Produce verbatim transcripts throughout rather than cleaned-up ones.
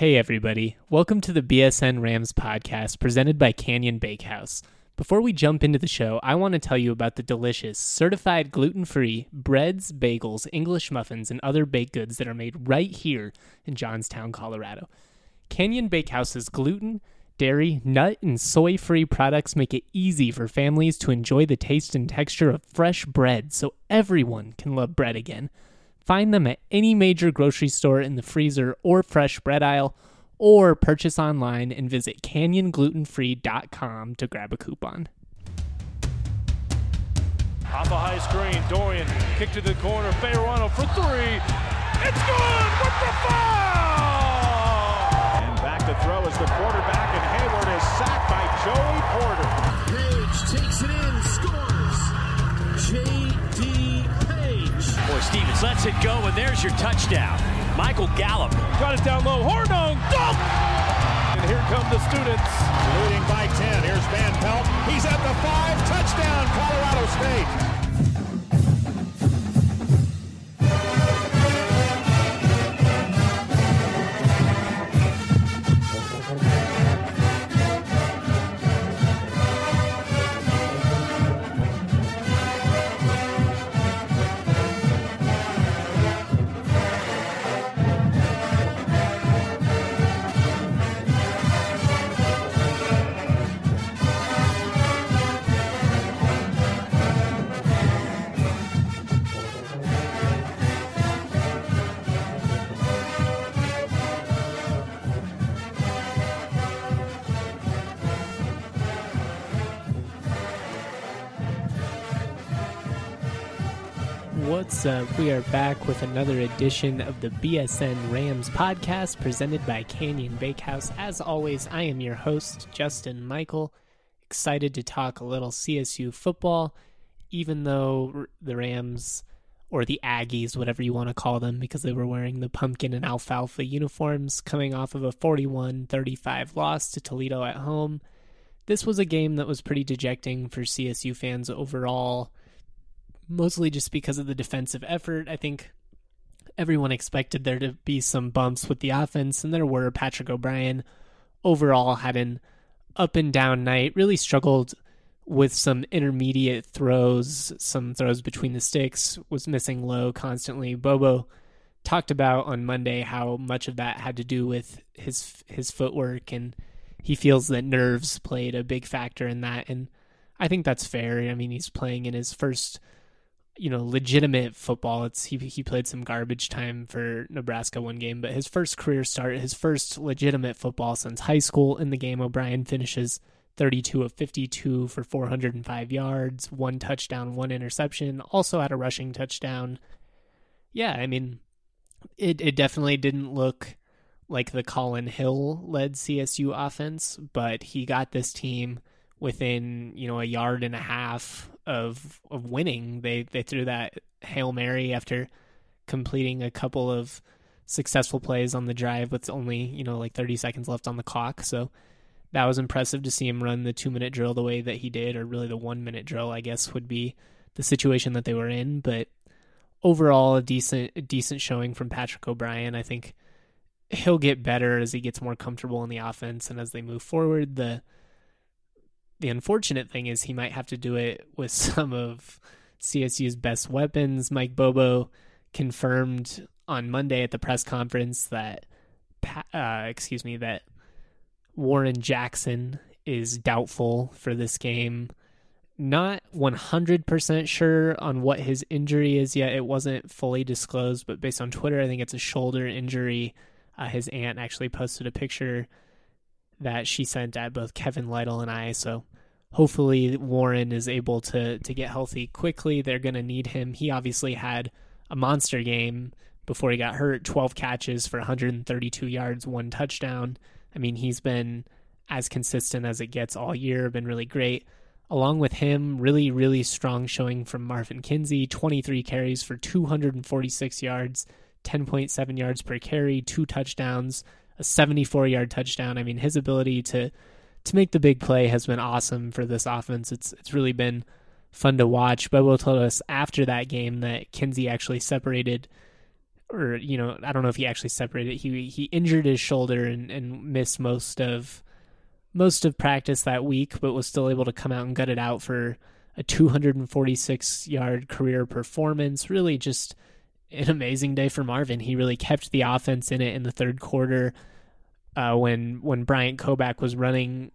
Hey everybody, welcome to the B S N Rams podcast presented by Canyon Bakehouse. Before we jump into the show, I want to tell you about the delicious, certified gluten-free breads, bagels, English muffins, and other baked goods that are made right here in Johnstown, Colorado. Canyon Bakehouse's gluten, dairy, nut, and soy-free products make it easy for families to enjoy the taste and texture of fresh bread so everyone can love bread again. Find them at any major grocery store in the freezer or fresh bread aisle, or purchase online and visit canyon gluten free dot com to grab a coupon. Off a high screen, Dorian, kick to the corner, Fayerano for three. It's good with the foul! And back to throw is the quarterback, and Hayward is sacked by Joey Porter. Page takes it in, scores. J D Boy, Stevens lets it go, and there's your touchdown. Michael Gallup. Got it down low. Hornung, dunk! And here come the students. Leading by ten. Here's Van Pelt. He's at the five. Touchdown, Colorado State. What's up? We are back with another edition of the B S N Rams podcast presented by Canyon Bakehouse. As always, I am your host, Justin Michael. Excited to talk a little C S U football, even though the Rams, or the Aggies, whatever you want to call them, because they were wearing the pumpkin and alfalfa uniforms, coming off of a forty-one thirty-five loss to Toledo at home. This was a game that was pretty dejecting for C S U fans overall, mostly just because of the defensive effort. I think everyone expected there to be some bumps with the offense, and there were. Patrick O'Brien overall had an up and down night, really struggled with some intermediate throws, some throws between the sticks, was missing low constantly. Bobo talked about on Monday how much of that had to do with his his footwork, and he feels that nerves played a big factor in that, and I think that's fair. I mean, he's playing in his first you know, legitimate football. It's he he played some garbage time for Nebraska one game, but his first career start, his first legitimate football since high school. In the game, O'Brien finishes thirty-two of fifty-two for four hundred five yards, one touchdown, one interception, also had a rushing touchdown. Yeah, I mean, it, it definitely didn't look like the Colin Hill-led C S U offense, but he got this team within, you know, a yard and a half of of winning. They they threw that Hail Mary after completing a couple of successful plays on the drive with only, you know, like thirty seconds left on the clock. So that was impressive to see him run the two-minute drill the way that he did, or really the one-minute drill, I guess, would be the situation that they were in. But overall, a decent a decent showing from Patrick O'Brien. I think he'll get better as he gets more comfortable in the offense and as they move forward. The The unfortunate thing is he might have to do it with some of C S U's best weapons. Mike Bobo confirmed on Monday at the press conference that, uh, excuse me, that Warren Jackson is doubtful for this game. Not one hundred percent sure on what his injury is yet. It wasn't fully disclosed, but based on Twitter, I think it's a shoulder injury. Uh, his aunt actually posted a picture that she sent at both Kevin Lytle and I, so hopefully Warren is able to to get healthy quickly. They're going to need him. He obviously had a monster game before he got hurt, twelve catches for one hundred thirty-two yards, one touchdown. I mean, he's been as consistent as it gets all year, been really great. Along with him, really, really strong showing from Marvin Kinsey, twenty-three carries for two hundred forty-six yards, ten point seven yards per carry, two touchdowns, a seventy-four-yard touchdown. I mean, his ability to to make the big play has been awesome for this offense. It's it's really been fun to watch. Bobo told us after that game that Kinsey actually separated or, you know, I don't know if he actually separated. He he injured his shoulder and, and missed most of most of practice that week, but was still able to come out and gut it out for a two hundred forty-six yard career performance. Really just an amazing day for Marvin. He really kept the offense in it in the third quarter uh, when when Bryant Koback was running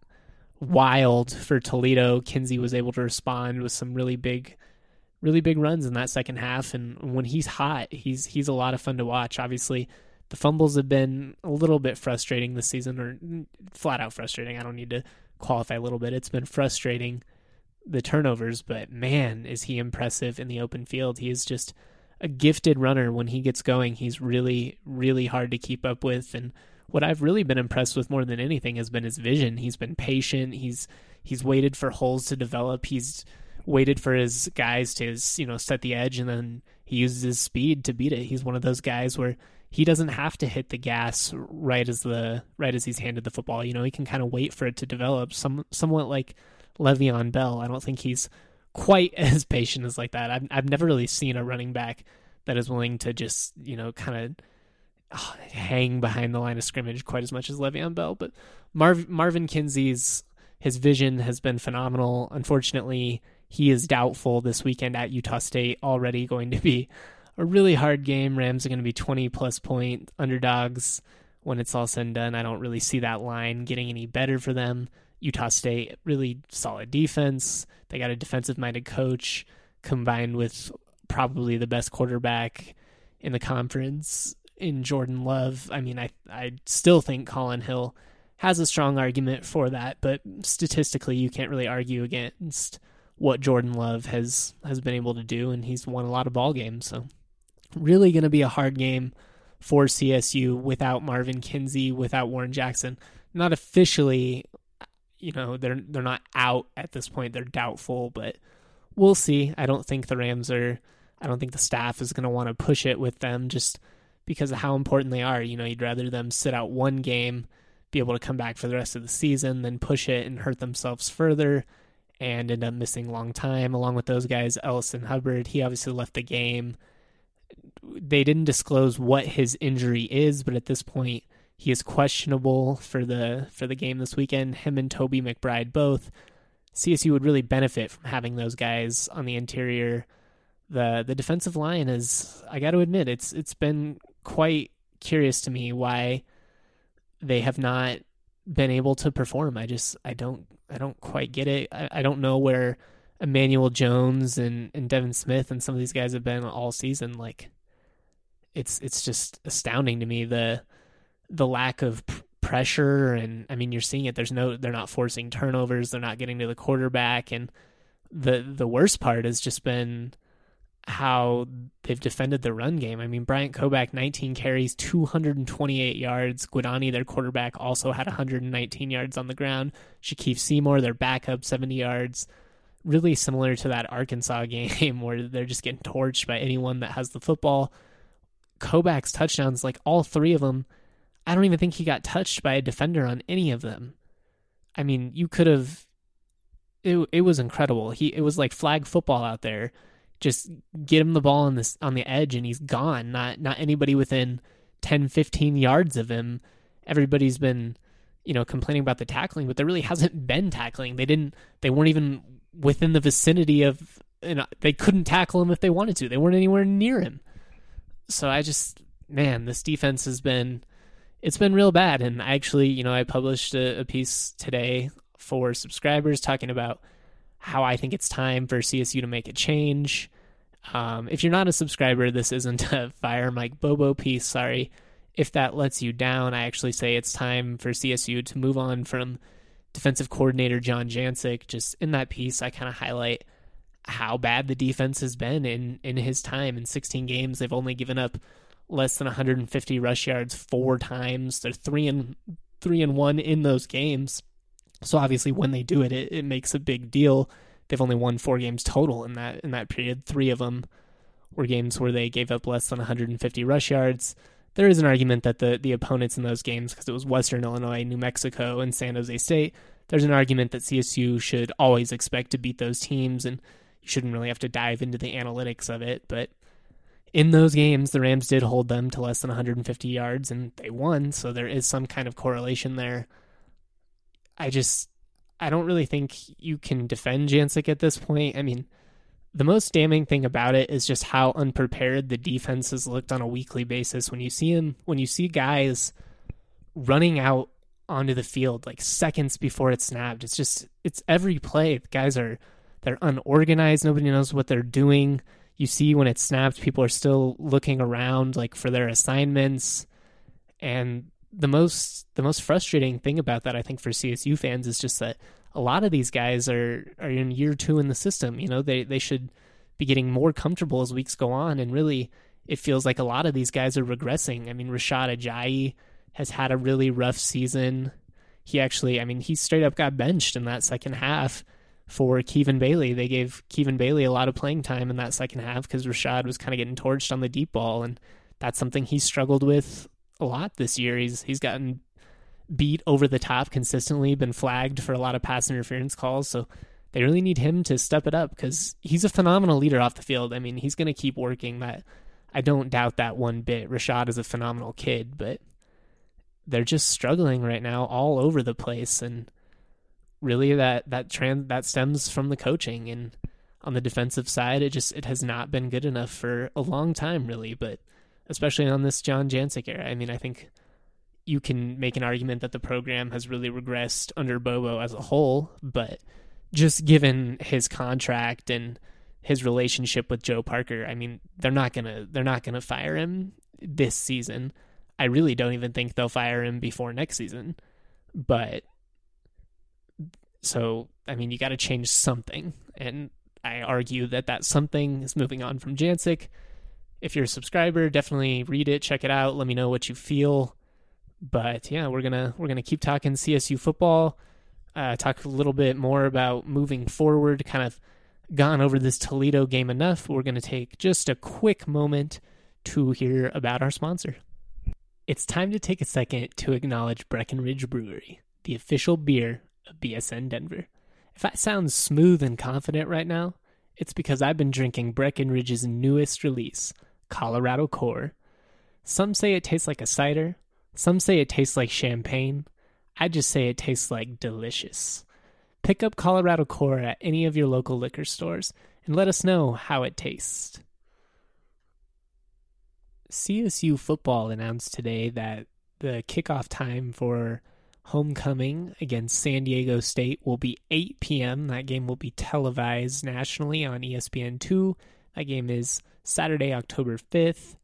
wild for Toledo. Kinsey was able to respond with some really big really big runs in that second half, and when he's hot, he's he's a lot of fun to watch. Obviously, the fumbles have been a little bit frustrating this season, or flat out frustrating. I don't need to qualify a little bit. It's been frustrating, the turnovers, but man, is he impressive in the open field. He is just a gifted runner. When he gets going, he's really, really hard to keep up with, and what I've really been impressed with more than anything has been his vision. He's been patient. He's he's waited for holes to develop. He's waited for his guys to, you know, set the edge, and then he uses his speed to beat it. He's one of those guys where he doesn't have to hit the gas right as the right as he's handed the football. You know, he can kind of wait for it to develop, some somewhat like Le'Veon Bell. I don't think he's quite as patient as like that. I've I've never really seen a running back that is willing to just, you know, kind of oh, hang behind the line of scrimmage quite as much as Le'Veon Bell. But Marv, Marvin Kinsey's his vision has been phenomenal. Unfortunately, he is doubtful this weekend at Utah State. Already going to be a really hard game. Rams are going to be twenty plus point underdogs when it's all said and done. I don't really see that line getting any better for them. Utah State, really solid defense. They got a defensive-minded coach combined with probably the best quarterback in the conference in Jordan Love. I mean, I I still think Colin Hill has a strong argument for that, but statistically you can't really argue against what Jordan Love has, has been able to do, and he's won a lot of ball games. So really going to be a hard game for C S U without Marvin Kinsey, without Warren Jackson. Not officially, you know, they're they're not out at this point. They're doubtful, but we'll see. I don't think the Rams are, I don't think the staff is going to want to push it with them just because of how important they are. You know, you'd rather them sit out one game, be able to come back for the rest of the season, than push it and hurt themselves further and end up missing a long time. Along with those guys, Ellison Hubbard, he obviously left the game. They didn't disclose what his injury is, but at this point, he is questionable for the for the game this weekend. Him and Toby McBride both. C S U would really benefit from having those guys on the interior. The the defensive line is, I got to admit, it's it's been quite curious to me why they have not been able to perform. I just I don't I don't quite get it. I, I don't know where Emmanuel Jones and, and Devin Smith and some of these guys have been all season. Like, it's it's just astounding to me, the the lack of p- pressure. And I mean, you're seeing it. There's no, they're not forcing turnovers. They're not getting to the quarterback. And the the worst part has just been how they've defended the run game. I mean, Bryant Koback, nineteen carries, two hundred twenty-eight yards. Guadani, their quarterback, also had one hundred nineteen yards on the ground. Shaquille Seymour, their backup, seventy yards. Really similar to that Arkansas game where they're just getting torched by anyone that has the football. Koback's touchdowns, like all three of them, I don't even think he got touched by a defender on any of them. I mean, you could have, it, it was incredible. He, it was like flag football out there. Just get him the ball on this on the edge and he's gone. Not not anybody within ten, fifteen yards of him. Everybody's been, you know, complaining about the tackling, but there really hasn't been tackling. They didn't they weren't even within the vicinity of, you know, they couldn't tackle him if they wanted to. They weren't anywhere near him. So I just, man, this defense has been, it's been real bad. And I actually, you know, I published a, a piece today for subscribers talking about how I think it's time for C S U to make a change. Um, if you're not a subscriber, this isn't a Fire Mike Bobo piece. Sorry if that lets you down. I actually say it's time for C S U to move on from defensive coordinator John Jancic. Just in that piece, I kind of highlight how bad the defense has been in, in his time. In sixteen games, they've only given up less than one hundred fifty rush yards four times. They're three and three and one in those games. So obviously when they do it, it, it makes a big deal. They've only won four games total in that in that period. Three of them were games where they gave up less than one hundred fifty rush yards. There is an argument that the, the opponents in those games, because it was Western Illinois, New Mexico, and San Jose State, there's an argument that C S U should always expect to beat those teams, and you shouldn't really have to dive into the analytics of it. But in those games, the Rams did hold them to less than one hundred fifty yards, and they won, so there is some kind of correlation there. I just, I don't really think you can defend Jancic at this point. I mean, the most damning thing about it is just how unprepared the defense has looked on a weekly basis. When you see him, when you see guys running out onto the field like seconds before it's snapped, it's just, it's every play. The guys are, they're unorganized. Nobody knows what they're doing. You see when it's snapped, people are still looking around like for their assignments. And the most, the most frustrating thing about that, I think, for C S U fans is just that a lot of these guys are, are in year two in the system. You know, they, they should be getting more comfortable as weeks go on. And really, it feels like a lot of these guys are regressing. I mean, Rashad Ajayi has had a really rough season. He actually, I mean, he straight up got benched in that second half for Kevin Bailey. They gave Kevin Bailey a lot of playing time in that second half because Rashad was kind of getting torched on the deep ball. And that's something he struggled with a lot this year. He's, he's gotten beat over the top consistently, been flagged for a lot of pass interference calls, so they really need him to step it up because he's a phenomenal leader off the field. I mean, he's going to keep working. That I don't doubt that one bit. Rashad is a phenomenal kid, but they're just struggling right now all over the place, and really that that trans that stems from the coaching. And on the defensive side, it just it has not been good enough for a long time, really, but especially on this John Jancic era. I mean, I think you can make an argument that the program has really regressed under Bobo as a whole, but just given his contract and his relationship with Joe Parker, I mean, they're not gonna they're not gonna fire him this season. I really don't even think they'll fire him before next season. But so, I mean, you got to change something, and I argue that that something is moving on from Jancic. If you're a subscriber, definitely read it, check it out, let me know what you feel. But yeah, we're gonna we're gonna keep talking C S U football. Uh, talk a little bit more about moving forward. Kind of gone over this Toledo game enough. We're gonna take just a quick moment to hear about our sponsor. It's time to take a second to acknowledge Breckenridge Brewery, the official beer of B S N Denver. If I sound smooth and confident right now, it's because I've been drinking Breckenridge's newest release, Colorado Core. Some say it tastes like a cider. Some say it tastes like champagne. I just say it tastes like delicious. Pick up Colorado Core at any of your local liquor stores and let us know how it tastes. C S U football announced today that the kickoff time for homecoming against San Diego State will be eight p.m. That game will be televised nationally on E S P N two. That game is Saturday, October fifth.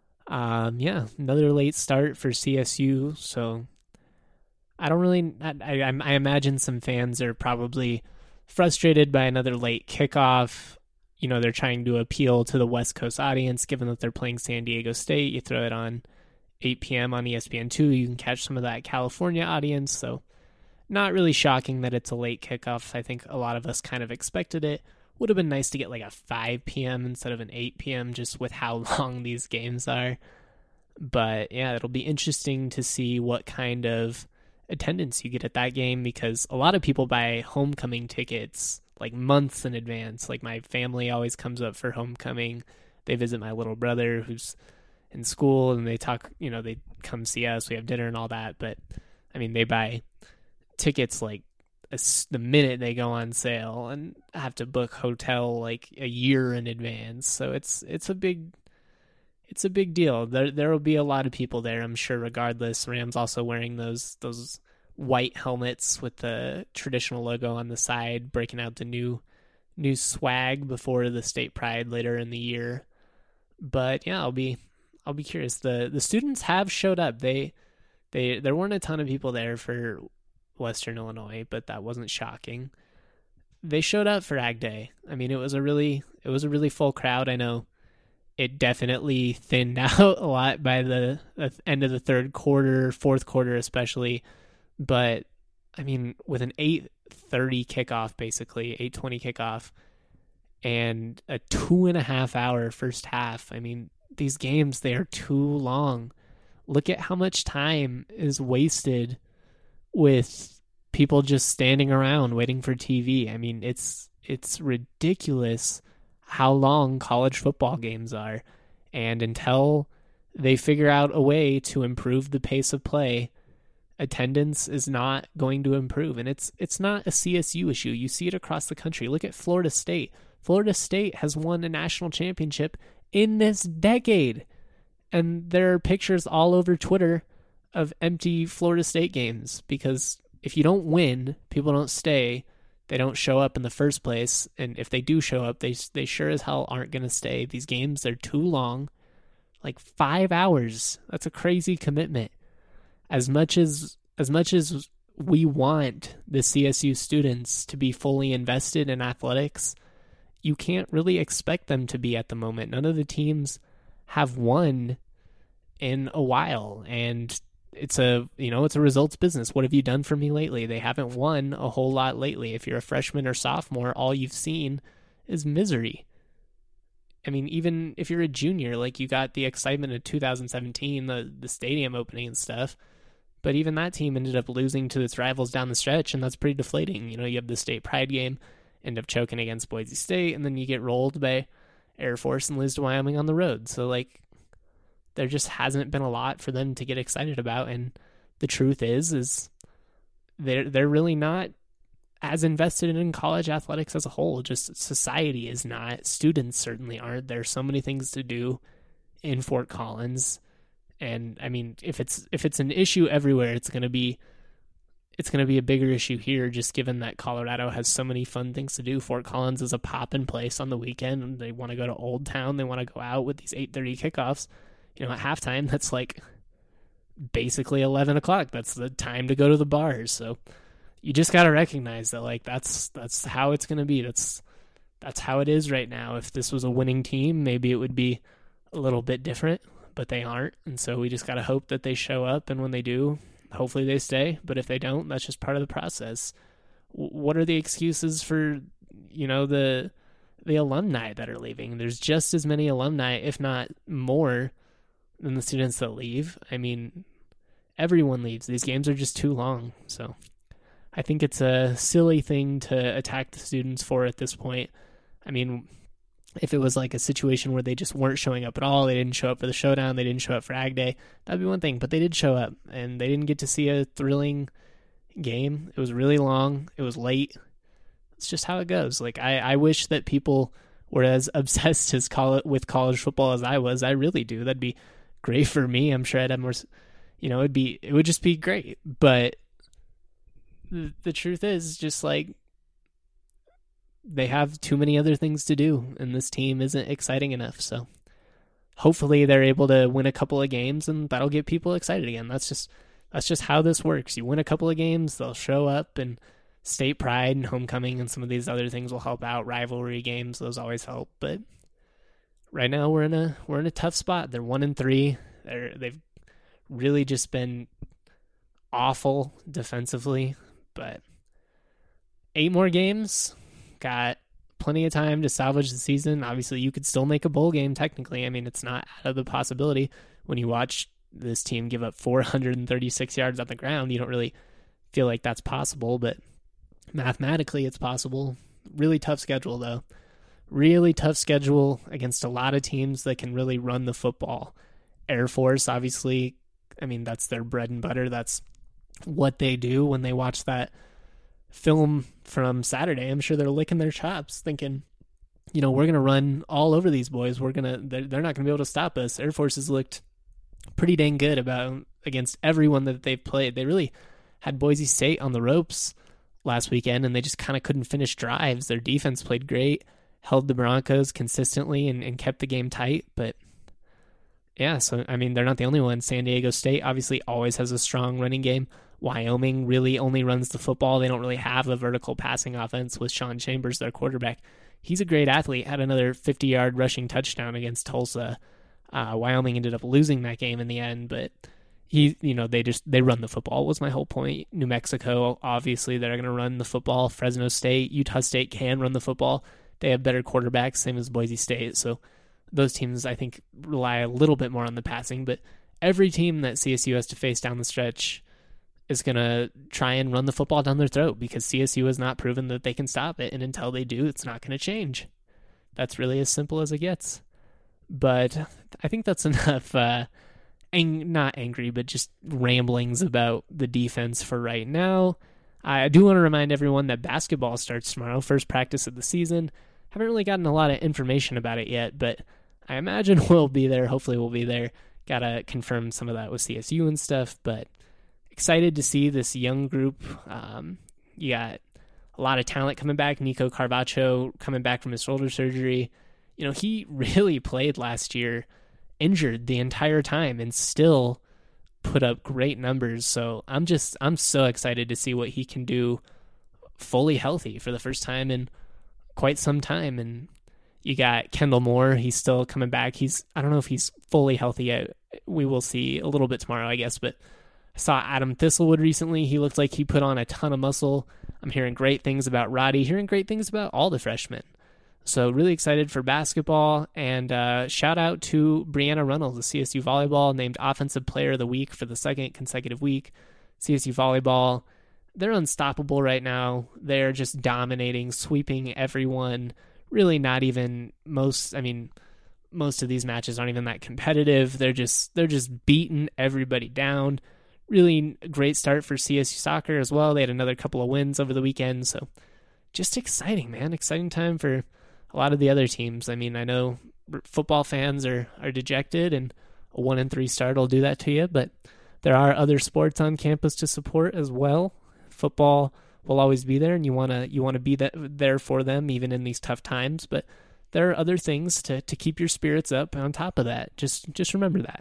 Um, yeah, another late start for C S U. So I don't really, I, I, I imagine some fans are probably frustrated by another late kickoff. You know, they're trying to appeal to the West Coast audience, given that they're playing San Diego State. You throw it on eight p.m. on E S P N two, you can catch some of that California audience. So not really shocking that it's a late kickoff. I think a lot of us kind of expected it. Would have been nice to get like a five p.m. instead of an eight p.m. just with how long these games are. But yeah, it'll be interesting to see what kind of attendance you get at that game, because a lot of people buy homecoming tickets like months in advance. Like my family always comes up for homecoming. They visit my little brother who's in school, and they talk, you know, they come see us, we have dinner and all that. But I mean, they buy tickets like a, the minute they go on sale, and have to book hotel like a year in advance. So it's it's a big it's a big deal. There there will be a lot of people there, I'm sure, regardless. Rams also wearing those those white helmets with the traditional logo on the side, breaking out the new new swag before the state pride later in the year. But yeah, I'll be I'll be curious. The the students have showed up. They they there weren't a ton of people there for Western Illinois, but that wasn't shocking. They showed up for Ag Day. I mean, it was a really it was a really full crowd. I know it definitely thinned out a lot by the, the end of the third quarter, fourth quarter especially. But I mean, with an eight thirty kickoff, basically eight twenty kickoff, and a two and a half hour first half. I mean, these games, they are too long. Look at how much time is wasted with people just standing around waiting for T V. I mean, it's it's ridiculous how long college football games are. And until they figure out a way to improve the pace of play, attendance is not going to improve. And it's it's not a C S U issue. You see it across the country. Look at Florida State. Florida State has won a national championship in this decade. And there are pictures all over Twitter of empty Florida State games, because if you don't win, people don't stay. They don't show up in the first place. And if they do show up, they they sure as hell aren't going to stay. These games, they're too long. Like five hours. That's a crazy commitment. As much as as much as we want the C S U students to be fully invested in athletics, you can't really expect them to be at the moment. None of the teams have won in a while, and it's a, you know, it's a results business. What have you done for me lately? They haven't won a whole lot lately. If you're a freshman or sophomore, all you've seen is misery. I mean, even if you're a junior, like, you got the excitement of two thousand seventeen, the the stadium opening and stuff, but even that team ended up losing to its rivals down the stretch, and that's pretty deflating. You know, you have the state pride game, end up choking against Boise State, and then you get rolled by Air Force and lose to Wyoming on the road. So, like, there just hasn't been a lot for them to get excited about, and the truth is, is they're, they're really not as invested in college athletics as a whole. Just society is not. Students certainly aren't. There's so many things to do in Fort Collins, and I mean, if it's if it's an issue everywhere, it's gonna be it's gonna be a bigger issue here. Just given that Colorado has so many fun things to do. Fort Collins is a poppin' place on the weekend, and they want to go to Old Town. They want to go out with these eight thirty kickoffs. You know, at halftime, that's like basically eleven o'clock. That's the time to go to the bars. So you just got to recognize that, like, that's that's how it's going to be. That's that's how it is right now. If this was a winning team, maybe it would be a little bit different, but they aren't. And so we just got to hope that they show up, and when they do, hopefully they stay. But if they don't, that's just part of the process. W- what are the excuses for, you know, the the alumni that are leaving? There's just as many alumni, if not more, than the students that leave. I mean, everyone leaves. These games are just too long. So I think it's a silly thing to attack the students for at this point. I mean, if it was like a situation where they just weren't showing up at all, they didn't show up for the showdown, they didn't show up for Ag Day, that'd be one thing. But they did show up, and they didn't get to see a thrilling game. It was really long. It was late. It's just how it goes. Like, I, I wish that people were as obsessed as call with college football as I was. I really do. That'd be great for me. I'm sure I'd have more, you know, it'd be, it would just be great. But the, the truth is, just like, they have too many other things to do, and this team isn't exciting enough. So hopefully they're able to win a couple of games, and that'll get people excited again. That's just, that's just how this works. You win a couple of games, they'll show up, and state pride and homecoming and some of these other things will help out. Rivalry games, those always help. But right now we're in a we're in a tough spot. They're one and three. They're they've really just been awful defensively. But eight more games, got plenty of time to salvage the season. Obviously, you could still make a bowl game technically. I mean, it's not out of the possibility. When you watch this team give up four hundred thirty-six yards on the ground, you don't really feel like that's possible, but mathematically it's possible. Really tough schedule, though. Really tough schedule against a lot of teams that can really run the football. Air Force, obviously, I mean, that's their bread and butter. That's what they do. When they watch that film from Saturday, I'm sure they're licking their chops thinking, you know, we're going to run all over these boys. We're going to, they're, they're not going to be able to stop us. Air Force has looked pretty dang good about against everyone that they've played. They really had Boise State on the ropes last weekend, and they just kind of couldn't finish drives. Their defense played great, held the Broncos consistently, and, and kept the game tight. But yeah, so I mean, they're not the only one. San Diego State obviously always has a strong running game. Wyoming really only runs the football. They don't really have a vertical passing offense with Sean Chambers, their quarterback. He's a great athlete, had another fifty-yard rushing touchdown against Tulsa. Uh, Wyoming ended up losing that game in the end, but he, you know, they just, they run the football was my whole point. New Mexico, obviously, they're going to run the football. Fresno State, Utah State can run the football. They have better quarterbacks, same as Boise State. So those teams, I think, rely a little bit more on the passing. But every team that C S U has to face down the stretch is going to try and run the football down their throat, because C S U has not proven that they can stop it. And until they do, it's not going to change. That's really as simple as it gets. But I think that's enough, uh, ang- not angry, but just ramblings about the defense for right now. I do want to remind everyone that basketball starts tomorrow, first practice of the season. Haven't really gotten a lot of information about it yet, but I imagine we'll be there. Hopefully we'll be there. Gotta confirm some of that with C S U and stuff, but excited to see this young group. Um, you got a lot of talent coming back. Nico Carvacho coming back from his shoulder surgery. You know, he really played last year injured the entire time and still put up great numbers. So I'm just, I'm so excited to see what he can do fully healthy for the first time in quite some time. And you got Kendall Moore. He's still coming back. He's, I don't know if he's fully healthy yet. We will see a little bit tomorrow, I guess, but I saw Adam Thistlewood recently. He looked like he put on a ton of muscle. I'm hearing great things about Roddy, hearing great things about all the freshmen. So really excited for basketball, and uh, shout out to Brianna Reynolds, the C S U Volleyball, named Offensive Player of the Week for the second consecutive week. C S U Volleyball, they're unstoppable right now. They're just dominating, sweeping everyone. Really not even most, I mean, most of these matches aren't even that competitive. They're just, they're just beating everybody down. Really great start for C S U soccer as well. They had another couple of wins over the weekend. So just exciting, man. Exciting time for a lot of the other teams. I mean, I know football fans are, are dejected, and a one and three start will do that to you, but there are other sports on campus to support as well. Football will always be there, and you want to you want to be that, there for them even in these tough times, but there are other things to, to keep your spirits up on top of that. Just just remember that.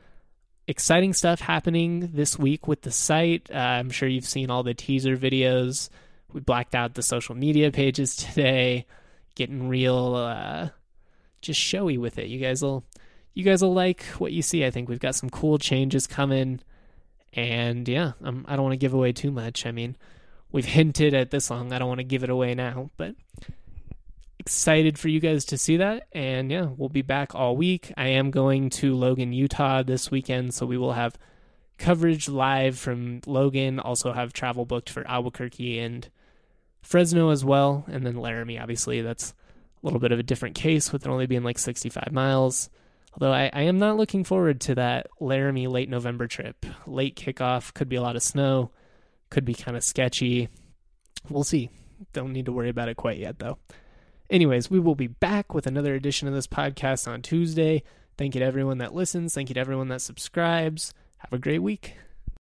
Exciting stuff happening this week with the site. Uh, I'm sure you've seen all the teaser videos. We blacked out the social media pages today, getting real uh, just showy with it. You guys will you guys will like what you see. I think we've got some cool changes coming, and yeah, I'm, I don't want to give away too much. I mean, we've hinted at this long. I don't want to give it away now, but excited for you guys to see that. And yeah, we'll be back all week. I am going to Logan, Utah this weekend, so we will have coverage live from Logan. Also have travel booked for Albuquerque and Fresno as well. And then Laramie, obviously, that's a little bit of a different case with it only being like sixty-five miles. Although I, I am not looking forward to that Laramie late November trip. Late kickoff, could be a lot of snow, could be kind of sketchy. We'll see. Don't need to worry about it quite yet, though. Anyways, we will be back with another edition of this podcast on Tuesday. Thank you to everyone that listens. Thank you to everyone that subscribes. Have a great week.